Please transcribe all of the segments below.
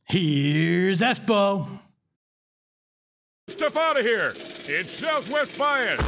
Here's Espo. Stuff out of here. It's Southwest Bias.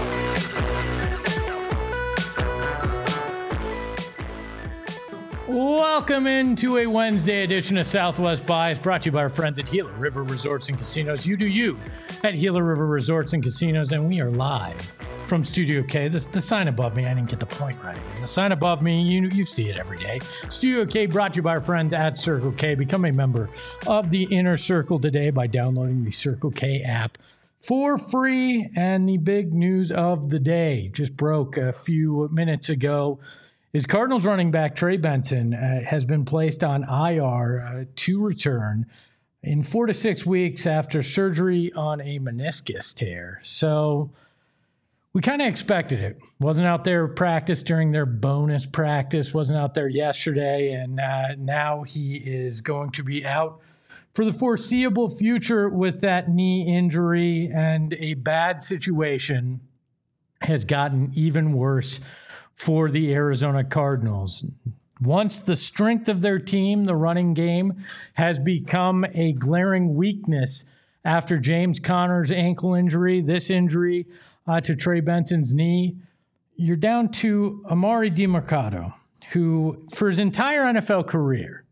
Welcome into a Wednesday edition of Southwest Bias, brought to you by our friends at Gila River Resorts and Casinos. You do you at Gila River Resorts and Casinos, and we are live from Studio K. The sign above me, I didn't get the point right. The sign above me, you see it every day. Studio K brought to you by our friends at Circle K. Become a member of the Inner Circle today by downloading the Circle K app for free. And the big news of the day just broke a few minutes ago is Cardinals running back Trey Benson has been placed on IR to return in 4 to 6 weeks after surgery on a meniscus tear. So we kind of expected it. Wasn't out there practice during their bonus practice, wasn't out there yesterday, and now he is going to be out for the foreseeable future with that knee injury, and a bad situation has gotten even worse for the Arizona Cardinals. Once the strength of their team, the running game, has become a glaring weakness after James Conner's ankle injury, this injury to Trey Benson's knee, you're down to Emari Demercado, who for his entire NFL career,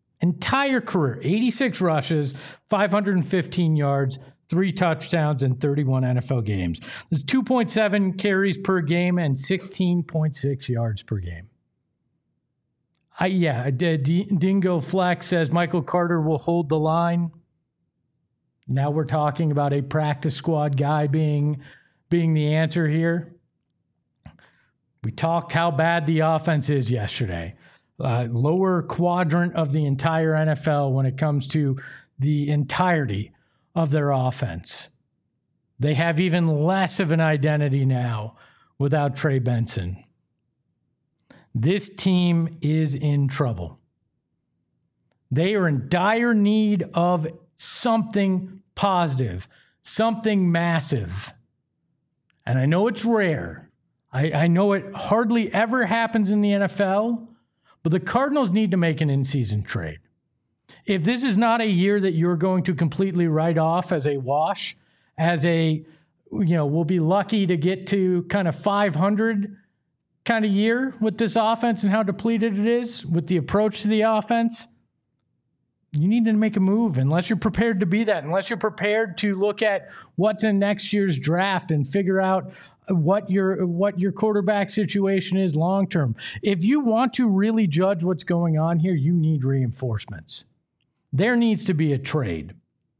86 rushes, 515 yards, 3 touchdowns in 31 NFL games. There's 2.7 carries per game and 16.6 yards per game. Dingo Flex says Michael Carter will hold the line. Now we're talking about a practice squad guy being the answer here. We talked how bad the offense is yesterday. Lower quadrant of the entire NFL when it comes to the entirety of their offense. They have even less of an identity now without Trey Benson. This team is in trouble. They are in dire need of something positive, something massive. And I know it's rare. I know it hardly ever happens in the NFL, but the Cardinals need to make an in-season trade. If this is not a year that you're going to completely write off as a wash, we'll be lucky to get to kind of 500 kind of year with this offense and how depleted it is with the approach to the offense, you need to make a move unless you're prepared to be that, unless you're prepared to look at what's in next year's draft and figure out what your quarterback situation is long term. If you want to really judge what's going on here, you need reinforcements. There needs to be a trade.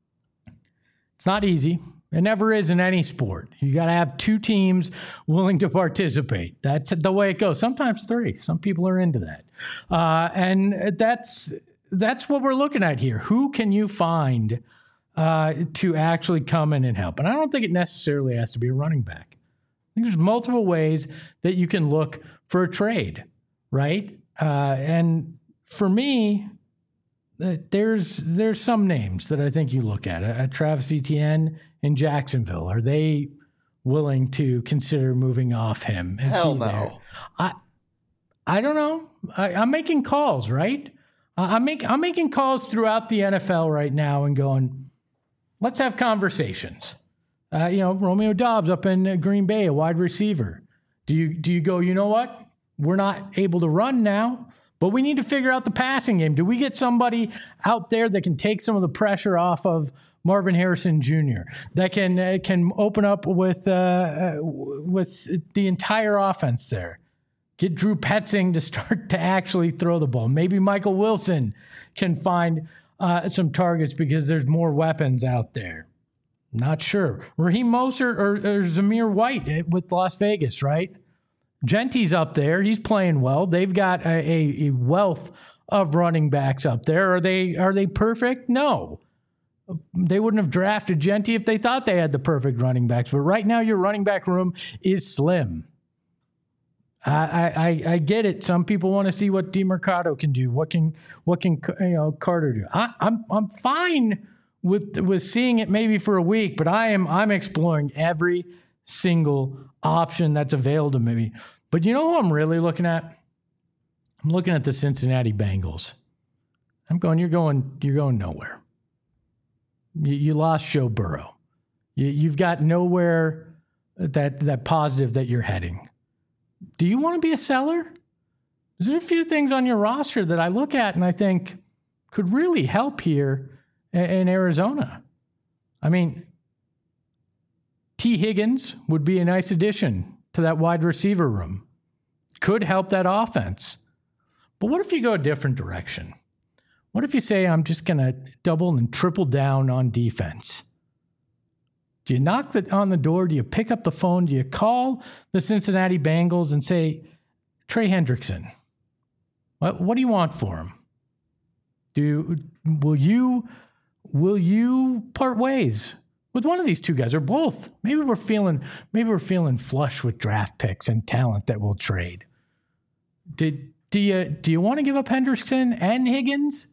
It's not easy. It never is in any sport. You got to have 2 teams willing to participate. That's the way it goes. Sometimes 3. Some people are into that. And that's what we're looking at here. Who can you find to actually come in and help? And I don't think it necessarily has to be a running back. I think there's multiple ways that you can look for a trade, right? And for me, there's some names that I think you look at. Travis Etienne in Jacksonville. Are they willing to consider moving off him? Hell no. I don't know. I'm making calls, right? I'm making calls throughout the NFL right now and going, let's have conversations. Romeo Doubs up in Green Bay, a wide receiver. Do you go, you know what? We're not able to run now, but we need to figure out the passing game. Do we get somebody out there that can take some of the pressure off of Marvin Harrison Jr., that can open up with the entire offense there? Get Drew Petzing to start to actually throw the ball. Maybe Michael Wilson can find some targets because there's more weapons out there. Not sure. Raheem Mostert or Zamir White with Las Vegas, right? Gentry's up there. He's playing well. They've got a wealth of running backs up there. Are they perfect? No. They wouldn't have drafted Gentry if they thought they had the perfect running backs. But right now, your running back room is slim. I get it. Some people want to see what Demercado can do. What can Carter do? I'm fine with seeing it maybe for a week, but I'm exploring every single option that's available to me. But you know who I'm really looking at? I'm looking at the Cincinnati Bengals. You're going nowhere. You lost Joe Burrow. You've got nowhere that positive that you're heading. Do you want to be a seller? There's a few things on your roster that I look at and I think could really help here in Arizona. I mean, T. Higgins would be a nice addition to that wide receiver room. Could help that offense. But what if you go a different direction? What if you say, I'm just going to double and triple down on defense? Do you knock on the door? Do you pick up the phone? Do you call the Cincinnati Bengals and say, Trey Hendrickson, what do you want for him? Will you part ways with one of these two guys or both? Maybe we're feeling flush with draft picks and talent that we'll trade. Do you want to give up Hendrickson and Higgins?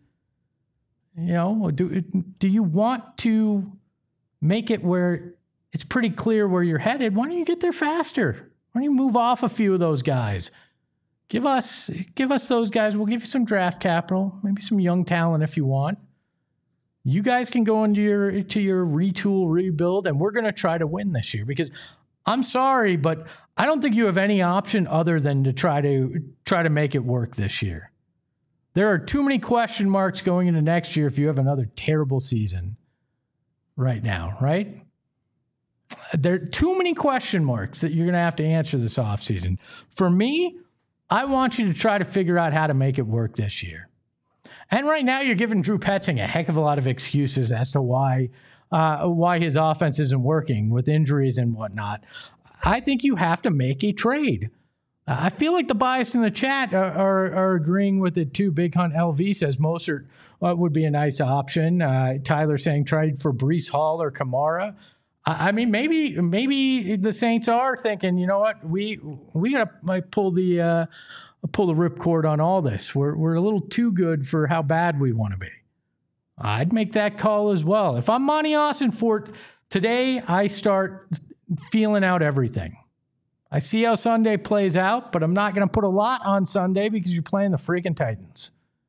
Do you want to make it where it's pretty clear where you're headed? Why don't you get there faster? Why don't you move off a few of those guys? Give us those guys. We'll give you some draft capital, maybe some young talent if you want. You guys can go into your retool, rebuild, and we're going to try to win this year. Because I'm sorry, but I don't think you have any option other than to try to make it work this year. There are too many question marks going into next year if you have another terrible season right now, right? There are too many question marks that you're going to have to answer this offseason. For me, I want you to try to figure out how to make it work this year. And right now, you're giving Drew Petzing a heck of a lot of excuses as to why his offense isn't working with injuries and whatnot. I think you have to make a trade. I feel like the bias in the chat are agreeing with it too. Big Hunt LV says Mostert would be a nice option. Tyler saying trade for Breece Hall or Kamara. I mean, maybe the Saints are thinking, you know what, we gotta pull the ripcord on all this. We're a little too good for how bad we want to be. I'd make that call as well. If I'm Monty Austinfort today, I start feeling out everything. I see how Sunday plays out, but I'm not going to put a lot on Sunday because you're playing the freaking Titans.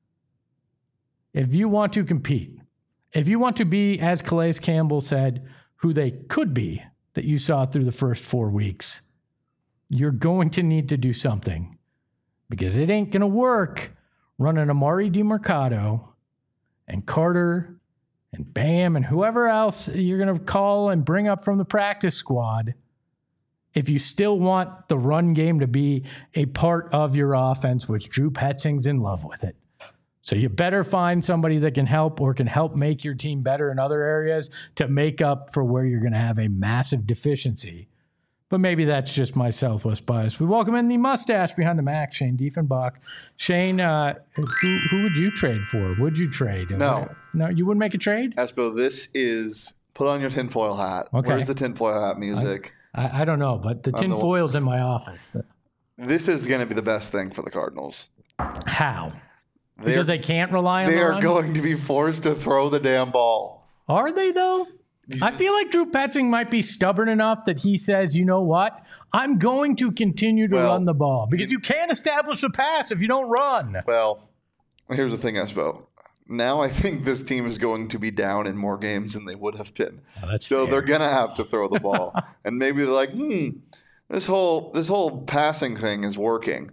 If you want to compete, if you want to be, as Calais Campbell said, who they could be that you saw through the first 4 weeks, you're going to need to do something because it ain't going to work running Amari DiMercato and Carter and Bam and whoever else you're going to call and bring up from the practice squad if you still want the run game to be a part of your offense, which Drew Petzing's in love with it. So you better find somebody that can help or can help make your team better in other areas to make up for where you're going to have a massive deficiency. But maybe that's just my Southwest bias. We welcome in the mustache behind the Mac, Shane Diefenbach. Shane, who would you trade for? Would you trade? No. No, you wouldn't make a trade? Espo, this is put on your tinfoil hat. Okay. Where's the tinfoil hat music? I don't know, but the tinfoil's in my office. This is going to be the best thing for the Cardinals. How? Because they can't rely on the run? They are going to be forced to throw the damn ball. Are they, though? I feel like Drew Petzing might be stubborn enough that he says, you know what? I'm going to continue to run the ball. Because you can't establish a pass if you don't run. Well, here's the thing, Espo. Now I think this team is going to be down in more games than they would have been. Oh, so fair. They're going to have to throw the ball. And maybe they're like, this whole passing thing is working.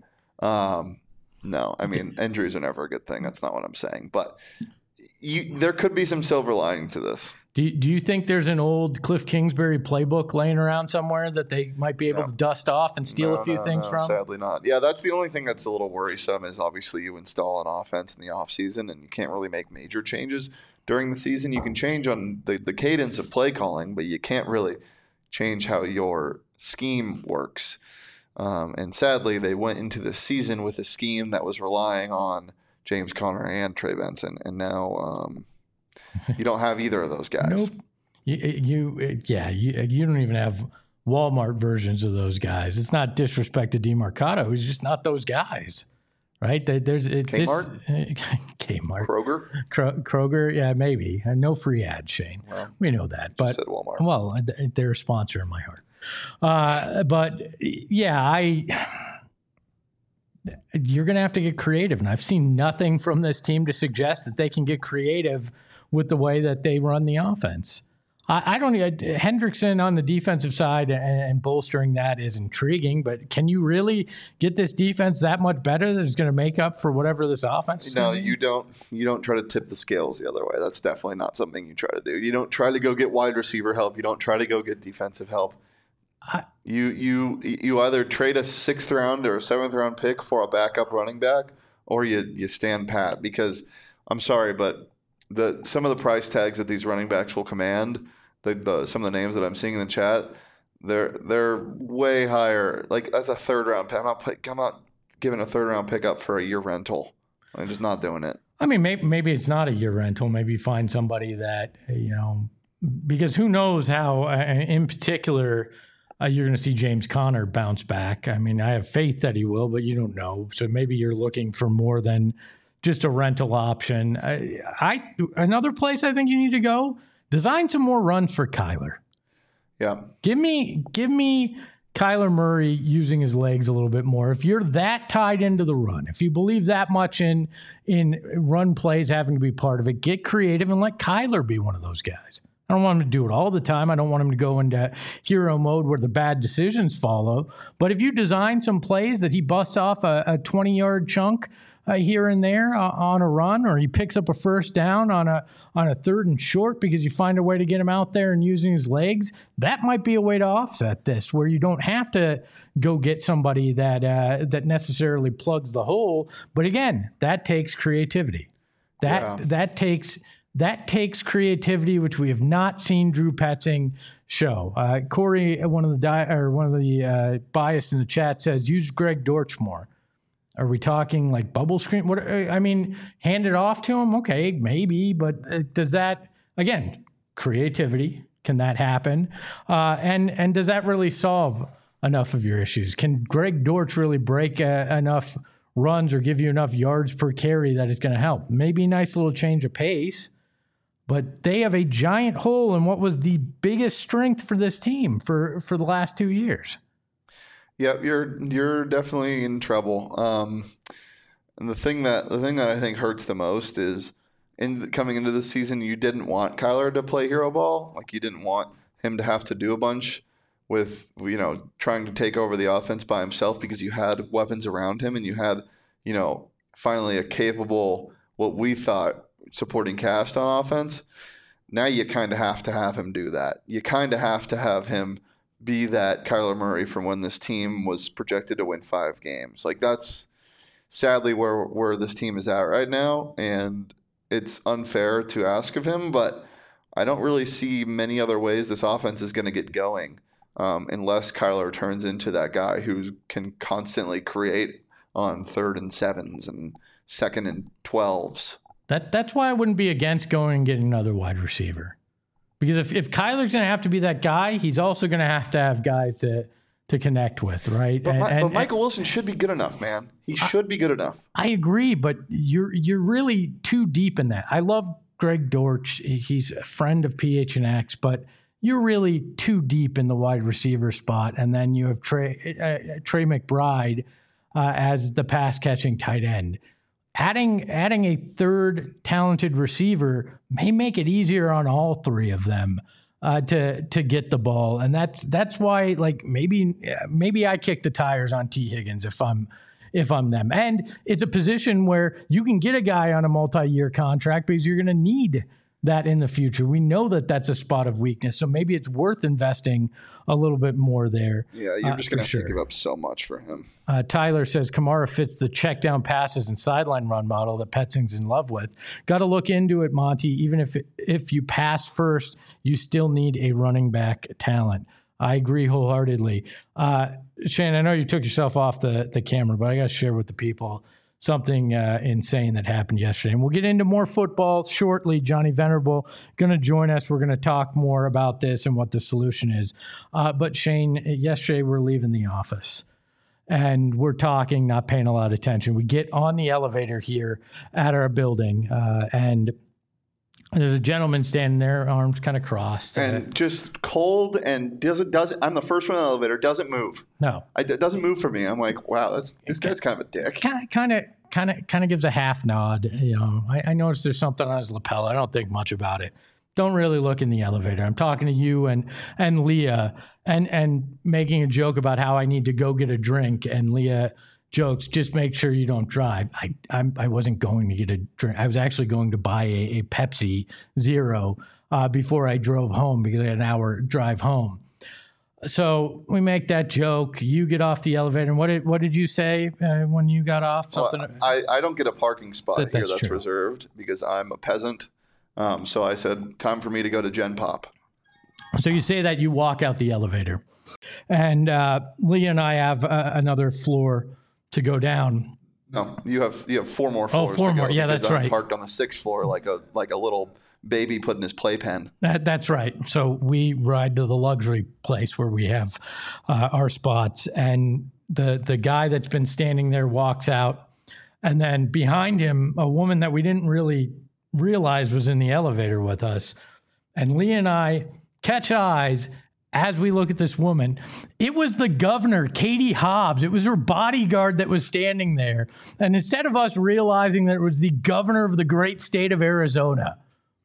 No, I mean, injuries are never a good thing. That's not what I'm saying. But there could be some silver lining to this. Do you think there's an old Cliff Kingsbury playbook laying around somewhere that they might be able to dust off and steal a few things from? Sadly not. Yeah, that's the only thing that's a little worrisome is obviously you install an offense in the offseason and you can't really make major changes during the season. You can change on the cadence of play calling, but you can't really change how your scheme works. And sadly, they went into the season with a scheme that was relying on James Conner and Trey Benson, and now you don't have either of those guys. Nope. You don't even have Walmart versions of those guys. It's not disrespect to DeMarcado. He's just not those guys, right? There's Kmart? Kmart. Kroger? Kroger, yeah, maybe. No free ads, Shane. Well, we know that. But said Walmart. Well, they're a sponsor in my heart. But yeah, you're going to have to get creative. And I've seen nothing from this team to suggest that they can get creative with the way that they run the offense. I don't. Hendrickson on the defensive side and bolstering that is intriguing, but can you really get this defense that much better that is going to make up for whatever this offense is? No, you don't. You don't try to tip the scales the other way. That's definitely not something you try to do. You don't try to go get wide receiver help. You don't try to go get defensive help. You either trade a 6th round or a 7th round pick for a backup running back, or you stand pat. Because I'm sorry, but some of the price tags that these running backs will command, some of the names that I'm seeing in the chat, they're way higher. Like, that's a 3rd round pick. I'm not giving a 3rd round pick up for a year rental. I'm just not doing it. I mean, maybe it's not a year rental. Maybe you find somebody that, because who knows how, in particular, you're going to see James Conner bounce back. I mean, I have faith that he will, but you don't know. So maybe you're looking for more than just a rental option. Another place I think you need to go, design some more runs for Kyler. Yeah. Give me Kyler Murray using his legs a little bit more. If you're that tied into the run, if you believe that much in run plays having to be part of it, get creative and let Kyler be one of those guys. I don't want him to do it all the time. I don't want him to go into hero mode where the bad decisions follow. But if you design some plays that he busts off a 20-yard chunk here and there on a run, or he picks up a 1st down on a 3rd and short because you find a way to get him out there and using his legs, that might be a way to offset this, where you don't have to go get somebody that necessarily plugs the hole. But again, that takes creativity. That takes creativity, which we have not seen Drew Petzing show. Corey, one of the bias in the chat, says use Greg Dortch more. Are we talking like bubble screen? Hand it off to him? Okay, maybe, but does that, again, creativity, can that happen? And does that really solve enough of your issues? Can Greg Dortch really break enough runs or give you enough yards per carry that is going to help? Maybe a nice little change of pace, but they have a giant hole in what was the biggest strength for this team for the last 2 years. Yeah, you're definitely in trouble. And the thing that I think hurts the most is coming into the season, you didn't want Kyler to play hero ball. Like, you didn't want him to have to do a bunch with trying to take over the offense by himself, because you had weapons around him and you had finally a capable, what we thought, supporting cast on offense. Now you kind of have to have him do that. You kind of have to have him be that Kyler Murray from when this team was projected to win 5 games. Like, that's sadly where this team is at right now, and it's unfair to ask of him, but I don't really see many other ways this offense is going to get going unless Kyler turns into that guy who can constantly create on 3rd and 7s and 2nd and 12s. That's why I wouldn't be against going and getting another wide receiver. Because if Kyler's going to have to be that guy, he's also going to have guys to connect with, right? But Michael Wilson should be good enough, man. He should be good enough. I agree, but you're really too deep in that. I love Greg Dortch. He's a friend of PHNX, but you're really too deep in the wide receiver spot. And then you have Trey McBride as the pass-catching tight end. Adding a 3rd talented receiver may make it easier on all 3 of them to get the ball, and that's why, like, maybe I kick the tires on T. Higgins if I'm them. And it's a position where you can get a guy on a multi-year contract because you're going to need that in the future. We know that that's a spot of weakness, so maybe it's worth investing a little bit more there. Yeah, you're just going to have to give up so much for him. Tyler says Kamara fits the check down passes and sideline run model that Petzing's in love with. Got to look into it, Monty. Even if you pass first, you still need a running back talent. I agree wholeheartedly. Shane, I know you took yourself off the camera, but I got to share with the people something insane that happened yesterday. And we'll get into more football shortly. Johnny Venerable going to join us. We're going to talk more about this and what the solution is. But Shane, yesterday we're leaving the office and we're talking, not paying a lot of attention. We get on the elevator here at our building and There's a gentleman standing there, arms kind of crossed. And just cold and doesn't. I'm the first one in the elevator, doesn't move. No. It doesn't move for me. I'm like, wow, this guy's kind of a dick. Kind of gives a half nod. I noticed there's something on his lapel. I don't think much about it. Don't really look in the elevator. I'm talking to you and Leah and making a joke about how I need to go get a drink. And Leah jokes, just make sure you don't drive. I wasn't going to get a drink. I was actually going to buy a Pepsi Zero before I drove home because I had an hour drive home. So we make that joke. You get off the elevator. And what did you say when you got off? Something. Well, I don't get a parking spot here that's true. reserved because I'm a peasant. So I said, time for me to go to Gen Pop. So you say that you walk out the elevator. And Leah and I have another floor to go down. No, you have 4 more floors. Oh, 4 more. Yeah, that's right. I'm parked on the 6th floor like a little baby put in his playpen. That's right. So we ride to the luxury place where we have our spots, and the guy that's been standing there walks out, and then behind him, a woman that we didn't really realize was in the elevator with us, and Leah and I catch eyes. As we look at this woman, it was the governor, Katie Hobbs. It was her bodyguard that was standing there. And instead of us realizing that it was the governor of the great state of Arizona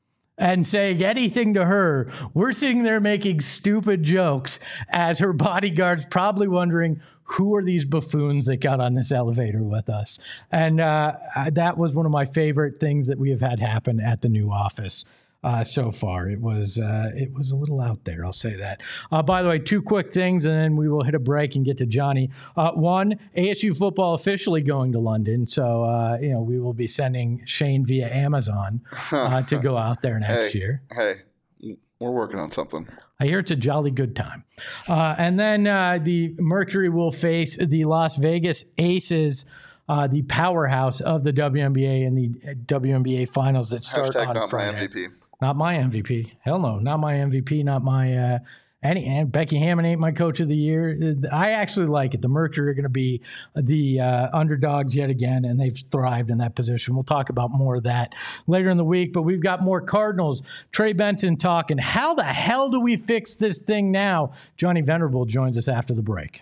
and saying anything to her, we're sitting there making stupid jokes as her bodyguard's probably wondering, who are these buffoons that got on this elevator with us? And that was one of my favorite things that we have had happen at the new office. So far, it was a little out there. I'll say that. By the way, 2 quick things, and then we will hit a break and get to Johnny. One, ASU football officially going to London, so we will be sending Shane via Amazon to go out there next year. Hey, we're working on something. I hear it's a jolly good time. And then the Mercury will face the Las Vegas Aces. The powerhouse of the WNBA and the WNBA finals that start on Friday. My MVP. Not my MVP. Hell no. Not my MVP. Not my and Becky Hammon ain't my coach of the year. I actually like it. The Mercury are going to be the underdogs yet again, and they've thrived in that position. We'll talk about more of that later in the week, but we've got more Cardinals. Trey Benson talking. How the hell do we fix this thing now? Johnny Venerable joins us after the break.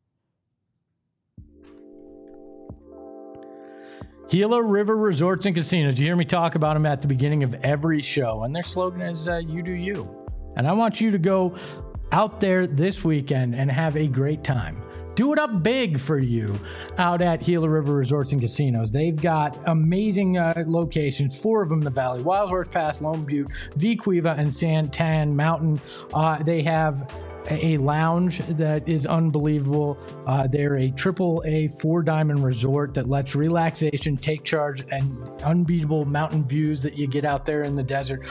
Gila River Resorts and Casinos. You hear me talk about them at the beginning of every show, and their slogan is you do you. And I want you to go out there this weekend and have a great time. Do it up big for you out at Gila River Resorts and Casinos. They've got amazing locations, 4 of them in the valley: Wild Horse Pass, Lone Butte, Vequiva, and Santan Mountain. They have a lounge that is unbelievable. They're a AAA 4-diamond resort that lets relaxation take charge and unbeatable mountain views that you get out there in the desert.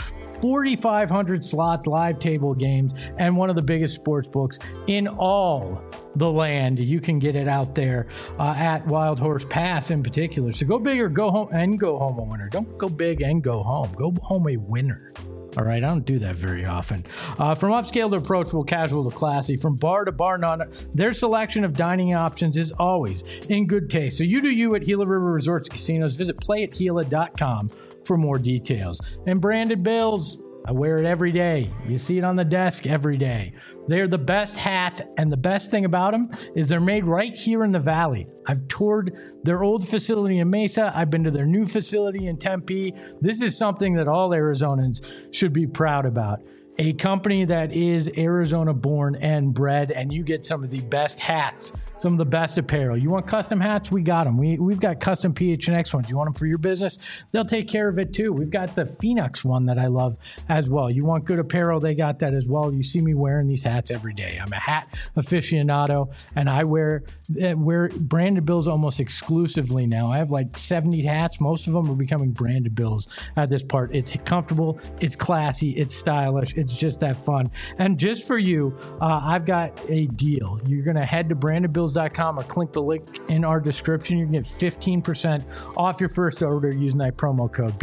4,500 slots, live table games, and one of the biggest sports books in all the land. You can get it out there at Wild Horse Pass in particular. So go big or go home and go home a winner. Don't go big and go home. Go home a winner. All right, I don't do that very often. From upscale to approachable, casual to classy, from bar to bar none, their selection of dining options is always in good taste. So you do you at Gila River Resorts Casinos. Visit playatgila.com for more details. And branded bills, I wear it every day. You see it on the desk every day. They're the best hat, and the best thing about them is they're made right here in the Valley. I've toured their old facility in Mesa. I've been to their new facility in Tempe. This is something that all Arizonans should be proud about. A company that is Arizona born and bred, and you get some of the best hats, some of the best apparel. You want custom hats? We got them. We've got custom PHNX ones. You want them for your business? They'll take care of it too. We've got the Phoenix one that I love as well. You want good apparel? They got that as well. You see me wearing these hats every day. I'm a hat aficionado, and I wear branded bills almost exclusively now. I have like 70 hats. Most of them are becoming branded bills at this part. It's comfortable, it's classy, it's stylish, it's just that fun. And just for you, I've got a deal. You're going to head to brandedbills.com or click the link in our description. You can get 15% off your first order using that promo code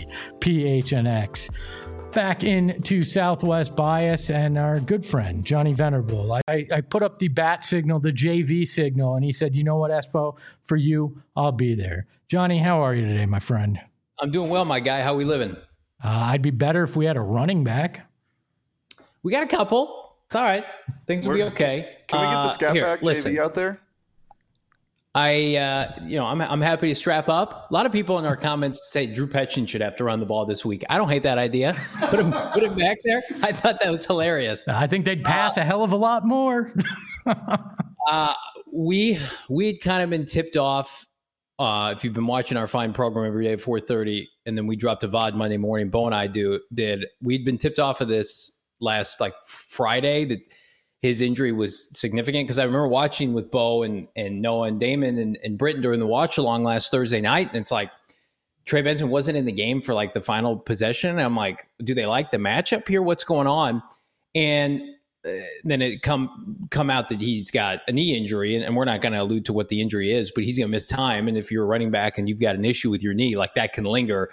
BBPHNX. Back into Southwest Bias and our good friend, Johnny Venerable. I put up the bat signal, the JV signal, and he said, you know what, Espo, for you, I'll be there. Johnny, how are you today, my friend? I'm doing well, my guy. How we living? I'd be better if we had a running back. We got a couple. It's all right. Things will be okay. Can we get the scat back JV out there? I'm happy to strap up. A lot of people in our comments say Drew Petchin should have to run the ball this week. I don't hate that idea. Put him back there. I thought that was hilarious. I think they'd pass a hell of a lot more. We'd kind of been tipped off. If you've been watching our fine program every day at 4:30, and then we dropped a VOD Monday morning, Bo and I did. We'd been tipped off of this last Friday that his injury was significant, because I remember watching with Bo and Noah and Damon and Britton during the watch along last Thursday night, and it's like Trey Benson wasn't in the game for the final possession. And I'm like, do they like the matchup here? What's going on? And then it come out that he's got a knee injury, and we're not going to allude to what the injury is, but he's going to miss time. And if you're a running back and you've got an issue with your knee, that can linger.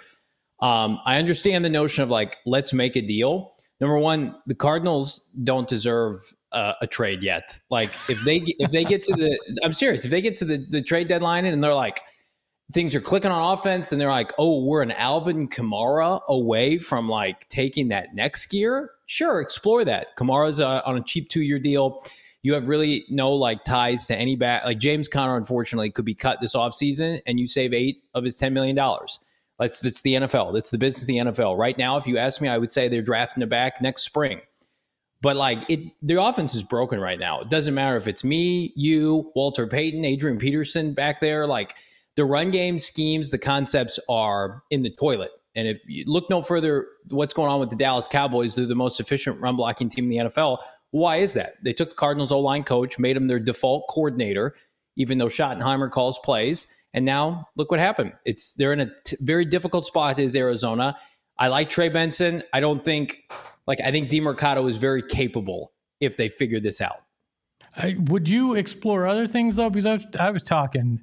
I understand the notion of let's make a deal. Number one, the Cardinals don't deserve a trade yet. If they get to I'm serious. If they get to the trade deadline and they're things are clicking on offense, and they're oh, we're an Alvin Kamara away from taking that next gear. Sure, explore that. Kamara's on a cheap 2-year deal. You have really no ties to any back. James Conner, unfortunately, could be cut this offseason, and you save 8 of his $10 million. That's the NFL. That's the business of the NFL. Right now, if you ask me, I would say they're drafting a back next spring. But their offense is broken right now. It doesn't matter if it's me, you, Walter Payton, Adrian Peterson back there. The run game schemes, the concepts are in the toilet. And if you look no further, what's going on with the Dallas Cowboys, they're the most efficient run blocking team in the NFL. Why is that? They took the Cardinals O-line coach, made him their default coordinator, even though Schottenheimer calls plays. And now look what happened. They're in a very difficult spot as Arizona. I like Trey Benson. I don't think I think DeMercado is very capable if they figure this out. Would you explore other things though? Because I was talking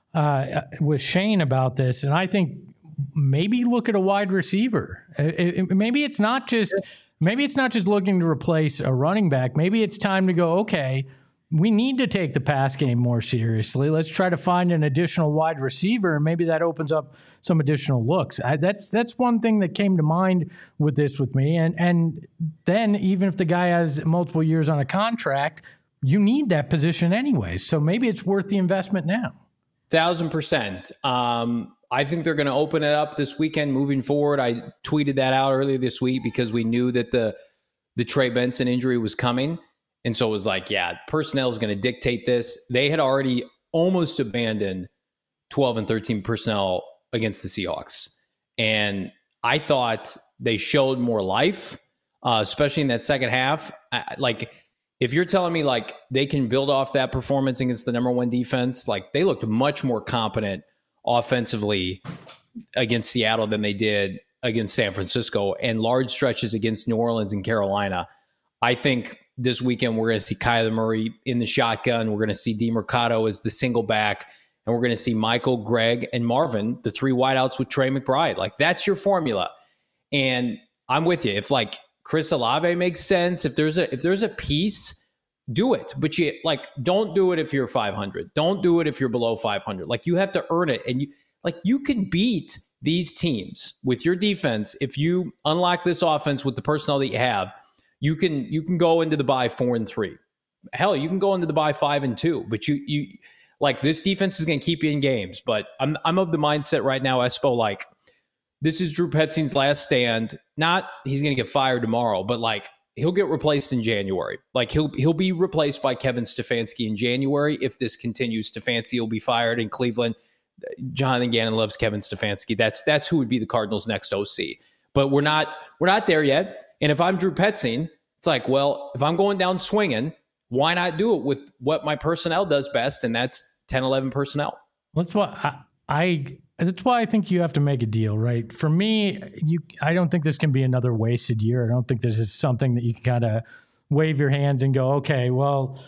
with Shane about this, and I think maybe look at a wide receiver. Maybe it's not just looking to replace a running back. Maybe it's time to go, okay, we need to take the pass game more seriously. Let's try to find an additional wide receiver, and maybe that opens up some additional looks. That's one thing that came to mind with me. And then even if the guy has multiple years on a contract, you need that position anyway. So maybe it's worth the investment now. 1,000%. I think they're going to open it up this weekend moving forward. I tweeted that out earlier this week because we knew that the Trey Benson injury was coming. And so it was personnel is going to dictate this. They had already almost abandoned 12 and 13 personnel against the Seahawks. And I thought they showed more life, especially in that second half. If you're telling me they can build off that performance against the number one defense, they looked much more competent offensively against Seattle than they did against San Francisco, and large stretches against New Orleans and Carolina. I think this weekend we're going to see Kyler Murray in the shotgun. We're going to see DeMercado as the single back, and we're going to see Michael, Greg, and Marvin, the 3 wideouts with Trey McBride. That's your formula. And I'm with you. If Chris Olave makes sense, if there's a piece, do it. But you don't do it if you're 500. Don't do it if you're below 500. You have to earn it. And you can beat these teams with your defense. If you unlock this offense with the personnel that you have, you can go into the bye 4-3. Hell, you can go into the bye 5-2. But you this defense is going to keep you in games. But I'm of the mindset right now, Espo, this is Drew Petzin's last stand. Not he's going to get fired tomorrow, but he'll get replaced in January. He'll be replaced by Kevin Stefanski in January. If this continues, Stefanski will be fired in Cleveland. Jonathan Gannon loves Kevin Stefanski. That's who would be the Cardinals' next OC. But we're not there yet. And if I'm Drew Petzing, it's if I'm going down swinging, why not do it with what my personnel does best, and that's 10, 11 personnel. That's why I think you have to make a deal, right? For me, I don't think this can be another wasted year. I don't think this is something that you can kind of wave your hands and go, okay, well,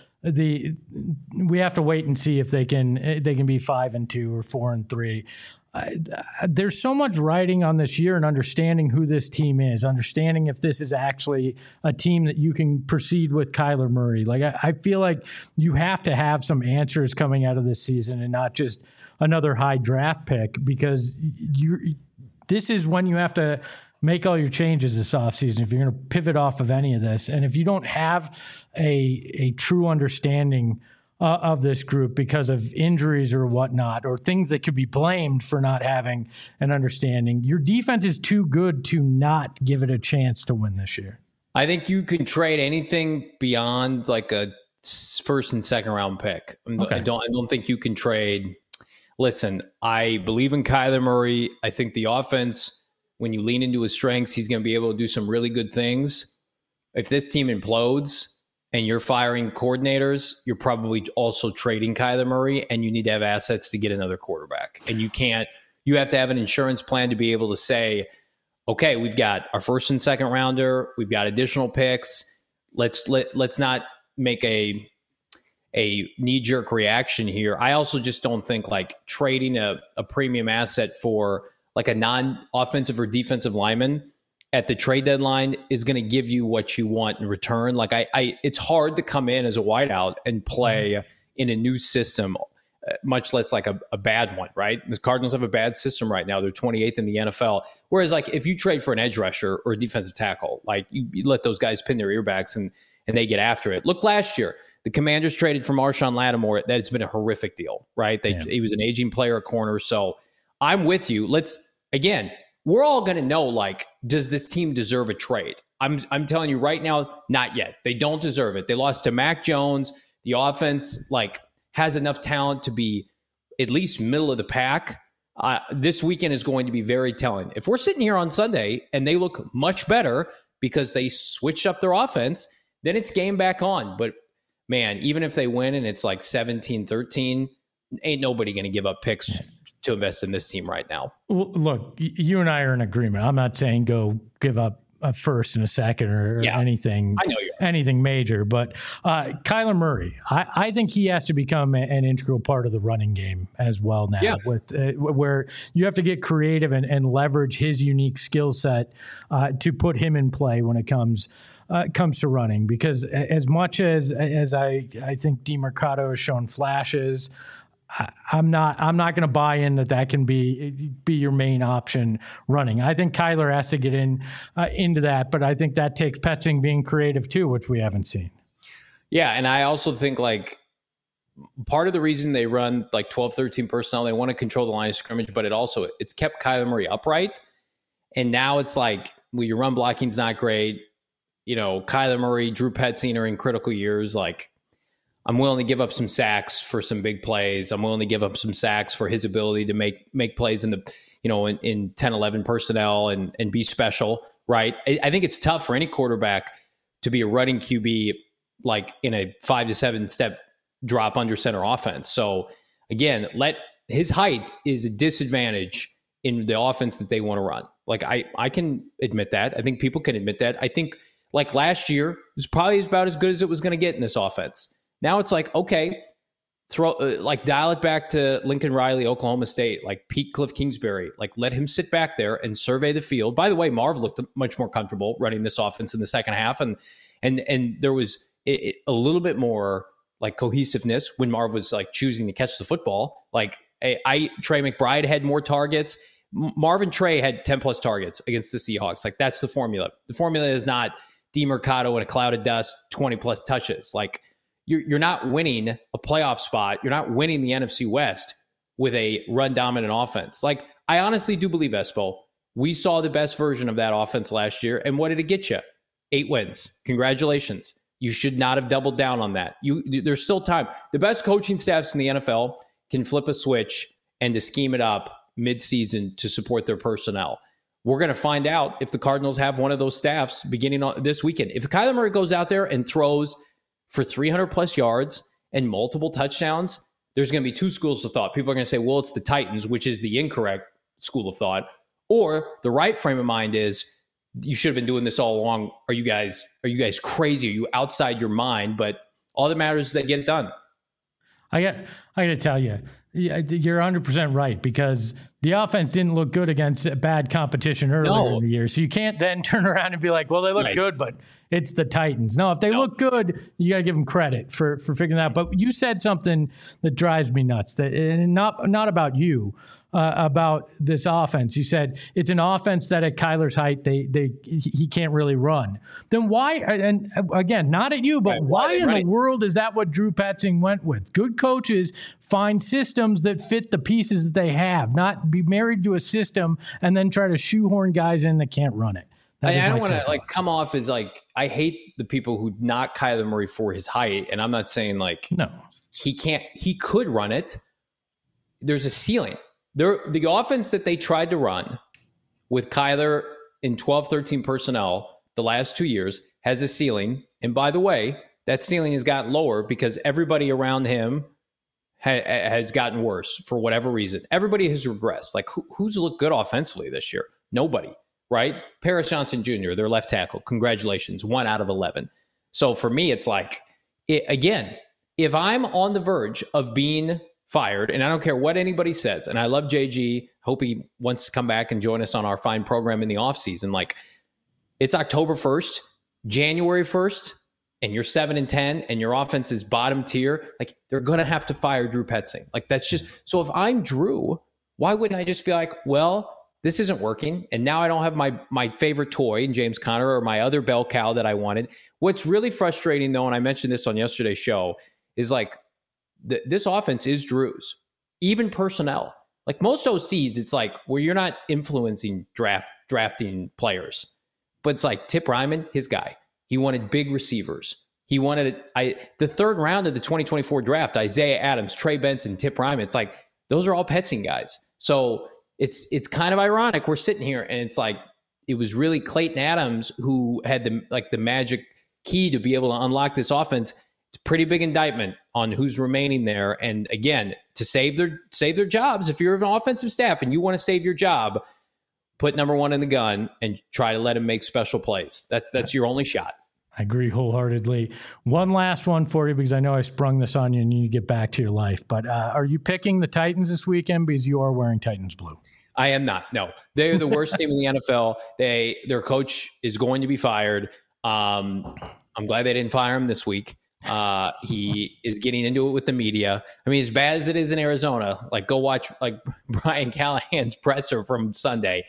we have to wait and see if they can be 5-2 or 4-3. There's so much writing on this year and understanding who this team is, understanding if this is actually a team that you can proceed with Kyler Murray. I feel like you have to have some answers coming out of this season and not just another high draft pick, because this is when you have to make all your changes this offseason if you're going to pivot off of any of this. And if you don't have a true understanding of this group because of injuries or whatnot, or things that could be blamed for not having an understanding, your defense is too good to not give it a chance to win this year. I think you can trade anything beyond like a first and second round pick. Okay. I don't think you can trade. Listen, I believe in Kyler Murray. I think the offense, when you lean into his strengths, he's going to be able to do some really good things. If this team implodes and you're firing coordinators, you're probably also trading Kyler Murray, and you need to have assets to get another quarterback. And you have to have an insurance plan to be able to say, okay, we've got our first and second rounder, we've got additional picks. Let's not make a knee-jerk reaction here. I also just don't think like trading a premium asset for like a non-offensive or defensive lineman at the trade deadline is going to give you what you want in return. Like it's hard to come in as a wideout and play in a new system, much less like a bad one, right? The Cardinals have a bad system right now. They're 28th in the NFL. Whereas like if you trade for an edge rusher or a defensive tackle, like you let those guys pin their earbacks and they get after it. Look, last year, the Commanders traded for Marshawn Lattimore. That's been a horrific deal, right? He was an aging player at corner. So I'm with you. We're all going to know, like, does this team deserve a trade? I'm telling you right now, not yet. They don't deserve it. They lost to Mac Jones. The offense, like, has enough talent to be at least middle of the pack. This weekend is going to be very telling. If we're sitting here on Sunday and they look much better because they switched up their offense, then it's game back on. But, man, even if they win and it's like 17-13, ain't nobody going to give up picks to invest in this team right now. Well, look, you and I are in agreement. I'm not saying go give up a first and a second or anything. I know anything major, but Kyler Murray, I think he has to become an integral part of the running game as well now. With where you have to get creative and leverage his unique skill set to put him in play when it comes to running. Because as much as I think DeMercado has shown flashes, I'm not going to buy in that can be your main option running. I think Kyler has to get into that, but I think that takes Petzing being creative too, which we haven't seen. Yeah, and I also think like part of the reason they run like 12-13 personnel, they want to control the line of scrimmage, but it's kept Kyler Murray upright. And now it's like, well, your run blocking's not great. You know, Kyler Murray, Drew Petzing are in critical years. Like, I'm willing to give up some sacks for some big plays. I'm willing to give up some sacks for his ability to make plays in 10-11 personnel and be special, right? I think it's tough for any quarterback to be a running QB like in a 5 to 7 step drop under center offense. So again, his height is a disadvantage in the offense that they want to run. Like I can admit that. I think people can admit that. I think like last year it was probably about as good as it was going to get in this offense. Now it's like, okay, dial it back to Lincoln Riley, Oklahoma State, like Pete Cliff Kingsbury, like let him sit back there and survey the field. By the way, Marv looked much more comfortable running this offense in the second half. And there was a little bit more like cohesiveness when Marv was like choosing to catch the football. Like Trey McBride had more targets. Marvin Trey had 10 plus targets against the Seahawks. Like that's the formula. The formula is not DeMercado in a cloud of dust, 20 plus touches. Like, you're not winning a playoff spot. You're not winning the NFC West with a run-dominant offense. Like, I honestly do believe, Espo, we saw the best version of that offense last year. And what did it get you? 8 wins. Congratulations. You should not have doubled down on that. There's still time. The best coaching staffs in the NFL can flip a switch and to scheme it up mid-season to support their personnel. We're going to find out if the Cardinals have one of those staffs beginning on this weekend. If Kyler Murray goes out there and throws for 300 plus yards and multiple touchdowns, there's going to be two schools of thought. People are going to say, well, it's the Titans, which is the incorrect school of thought. Or the right frame of mind is, you should have been doing this all along. Are you guys crazy? Are you outside your mind? But all that matters is they get it done. I got to tell you, you're 100% right, because the offense didn't look good against bad competition earlier in the year. So you can't then turn around and be like, well, they look good, but it's the Titans. No, if they look good, you got to give them credit for figuring that out. But you said something that drives me nuts, that and not about you, about this offense. You said it's an offense that at Kyler's height, he can't really run. Then why, and again, not at you, but why in the world is that what Drew Petzing went with? Good coaches find systems that fit the pieces that they have, not be married to a system and then try to shoehorn guys in that can't run it. I don't want to come off as I hate the people who knock Kyler Murray for his height. And I'm not saying no, he could run it. There's a ceiling. The offense that they tried to run with Kyler in 12-13 personnel the last 2 years has a ceiling. And by the way, that ceiling has gotten lower because everybody around him has gotten worse for whatever reason. Everybody has regressed. Who's looked good offensively this year? Nobody, right? Paris Johnson Jr., their left tackle. Congratulations, 1 out of 11. So for me, it's again, if I'm on the verge of being fired, and I don't care what anybody says, and I love JG, hope he wants to come back and join us on our fine program in the offseason. It's October 1st, January 1st, and you're 7-10, and your offense is bottom tier. They're going to have to fire Drew Petzing. That's just, so if I'm Drew, why wouldn't I just be like, well, this isn't working, and now I don't have my favorite toy in James Conner or my other bell cow that I wanted. What's really frustrating, though, and I mentioned this on yesterday's show, is this offense is Drew's, even personnel. Most OCs, it's where you're not influencing drafting players, but it's Tip Ryman, his guy. He wanted big receivers. He wanted the third round of the 2024 draft, Isaiah Adams, Trey Benson, Tip Ryman. It's those are all Petzing guys. So it's kind of ironic. We're sitting here and it's it was really Clayton Adams who had the magic key to be able to unlock this offense. It's a pretty big indictment on who's remaining there. And again, to save their jobs, if you're an offensive staff and you want to save your job, put number one in the gun and try to let him make special plays. That's your only shot. I agree wholeheartedly. One last one for you, because I know I sprung this on you and you need to get back to your life. But are you picking the Titans this weekend because you are wearing Titans blue? I am not. No, they're the worst team in the NFL. Their coach is going to be fired. I'm glad they didn't fire him this week. He is getting into it with the media. I mean, as bad as it is in Arizona, go watch Brian Callahan's presser from Sunday.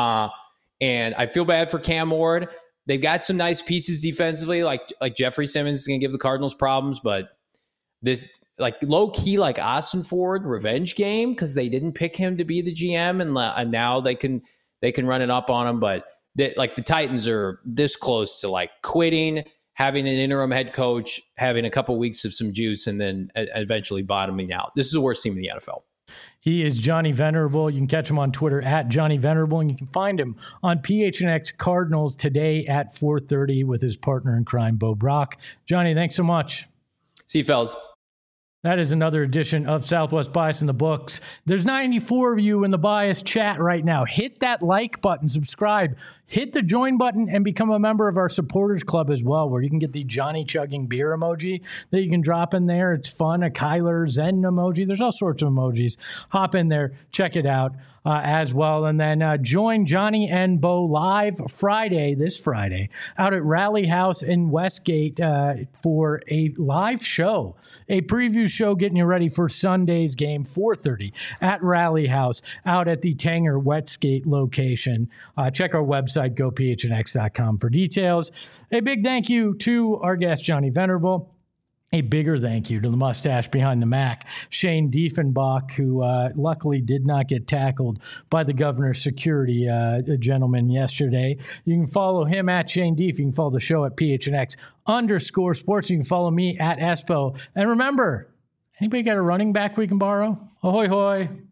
And I feel bad for Cam Ward. They've got some nice pieces defensively, like Jeffrey Simmons is going to give the Cardinals problems, but this low key Austin Ford revenge game because they didn't pick him to be the GM, and now they can run it up on him. But the Titans are this close to quitting, having an interim head coach, having a couple weeks of some juice, and then eventually bottoming out. This is the worst team in the NFL. He is Johnny Venerable. You can catch him on Twitter at Johnny Venerable, and you can find him on PHNX Cardinals today at 4:30 with his partner in crime, Bo Brock. Johnny, thanks so much. See you, fellas. That is another edition of Southwest Bias in the books. There's 94 of you in the Bias chat right now. Hit that like button, subscribe, hit the join button, and become a member of our supporters club as well, where you can get the Johnny chugging beer emoji that you can drop in there. It's fun. A Kyler Zen emoji. There's all sorts of emojis. Hop in there, check it out as well. And then join Johnny and Bo live this Friday, out at Rally House in Westgate for a live show, a preview show getting you ready for Sunday's game, 4:30 at Rally House out at the Tanger Westgate location. Check our website, gophnx.com for details. A big thank you to our guest, Johnny Venerable. A bigger thank you to the mustache behind the Mac, Shane Diefenbach, who luckily did not get tackled by the governor's security gentleman yesterday. You can follow him at Shane Dief. You can follow the show at PHNX_sports. You can follow me at Espo. And remember, anybody got a running back we can borrow? Ahoy, hoy.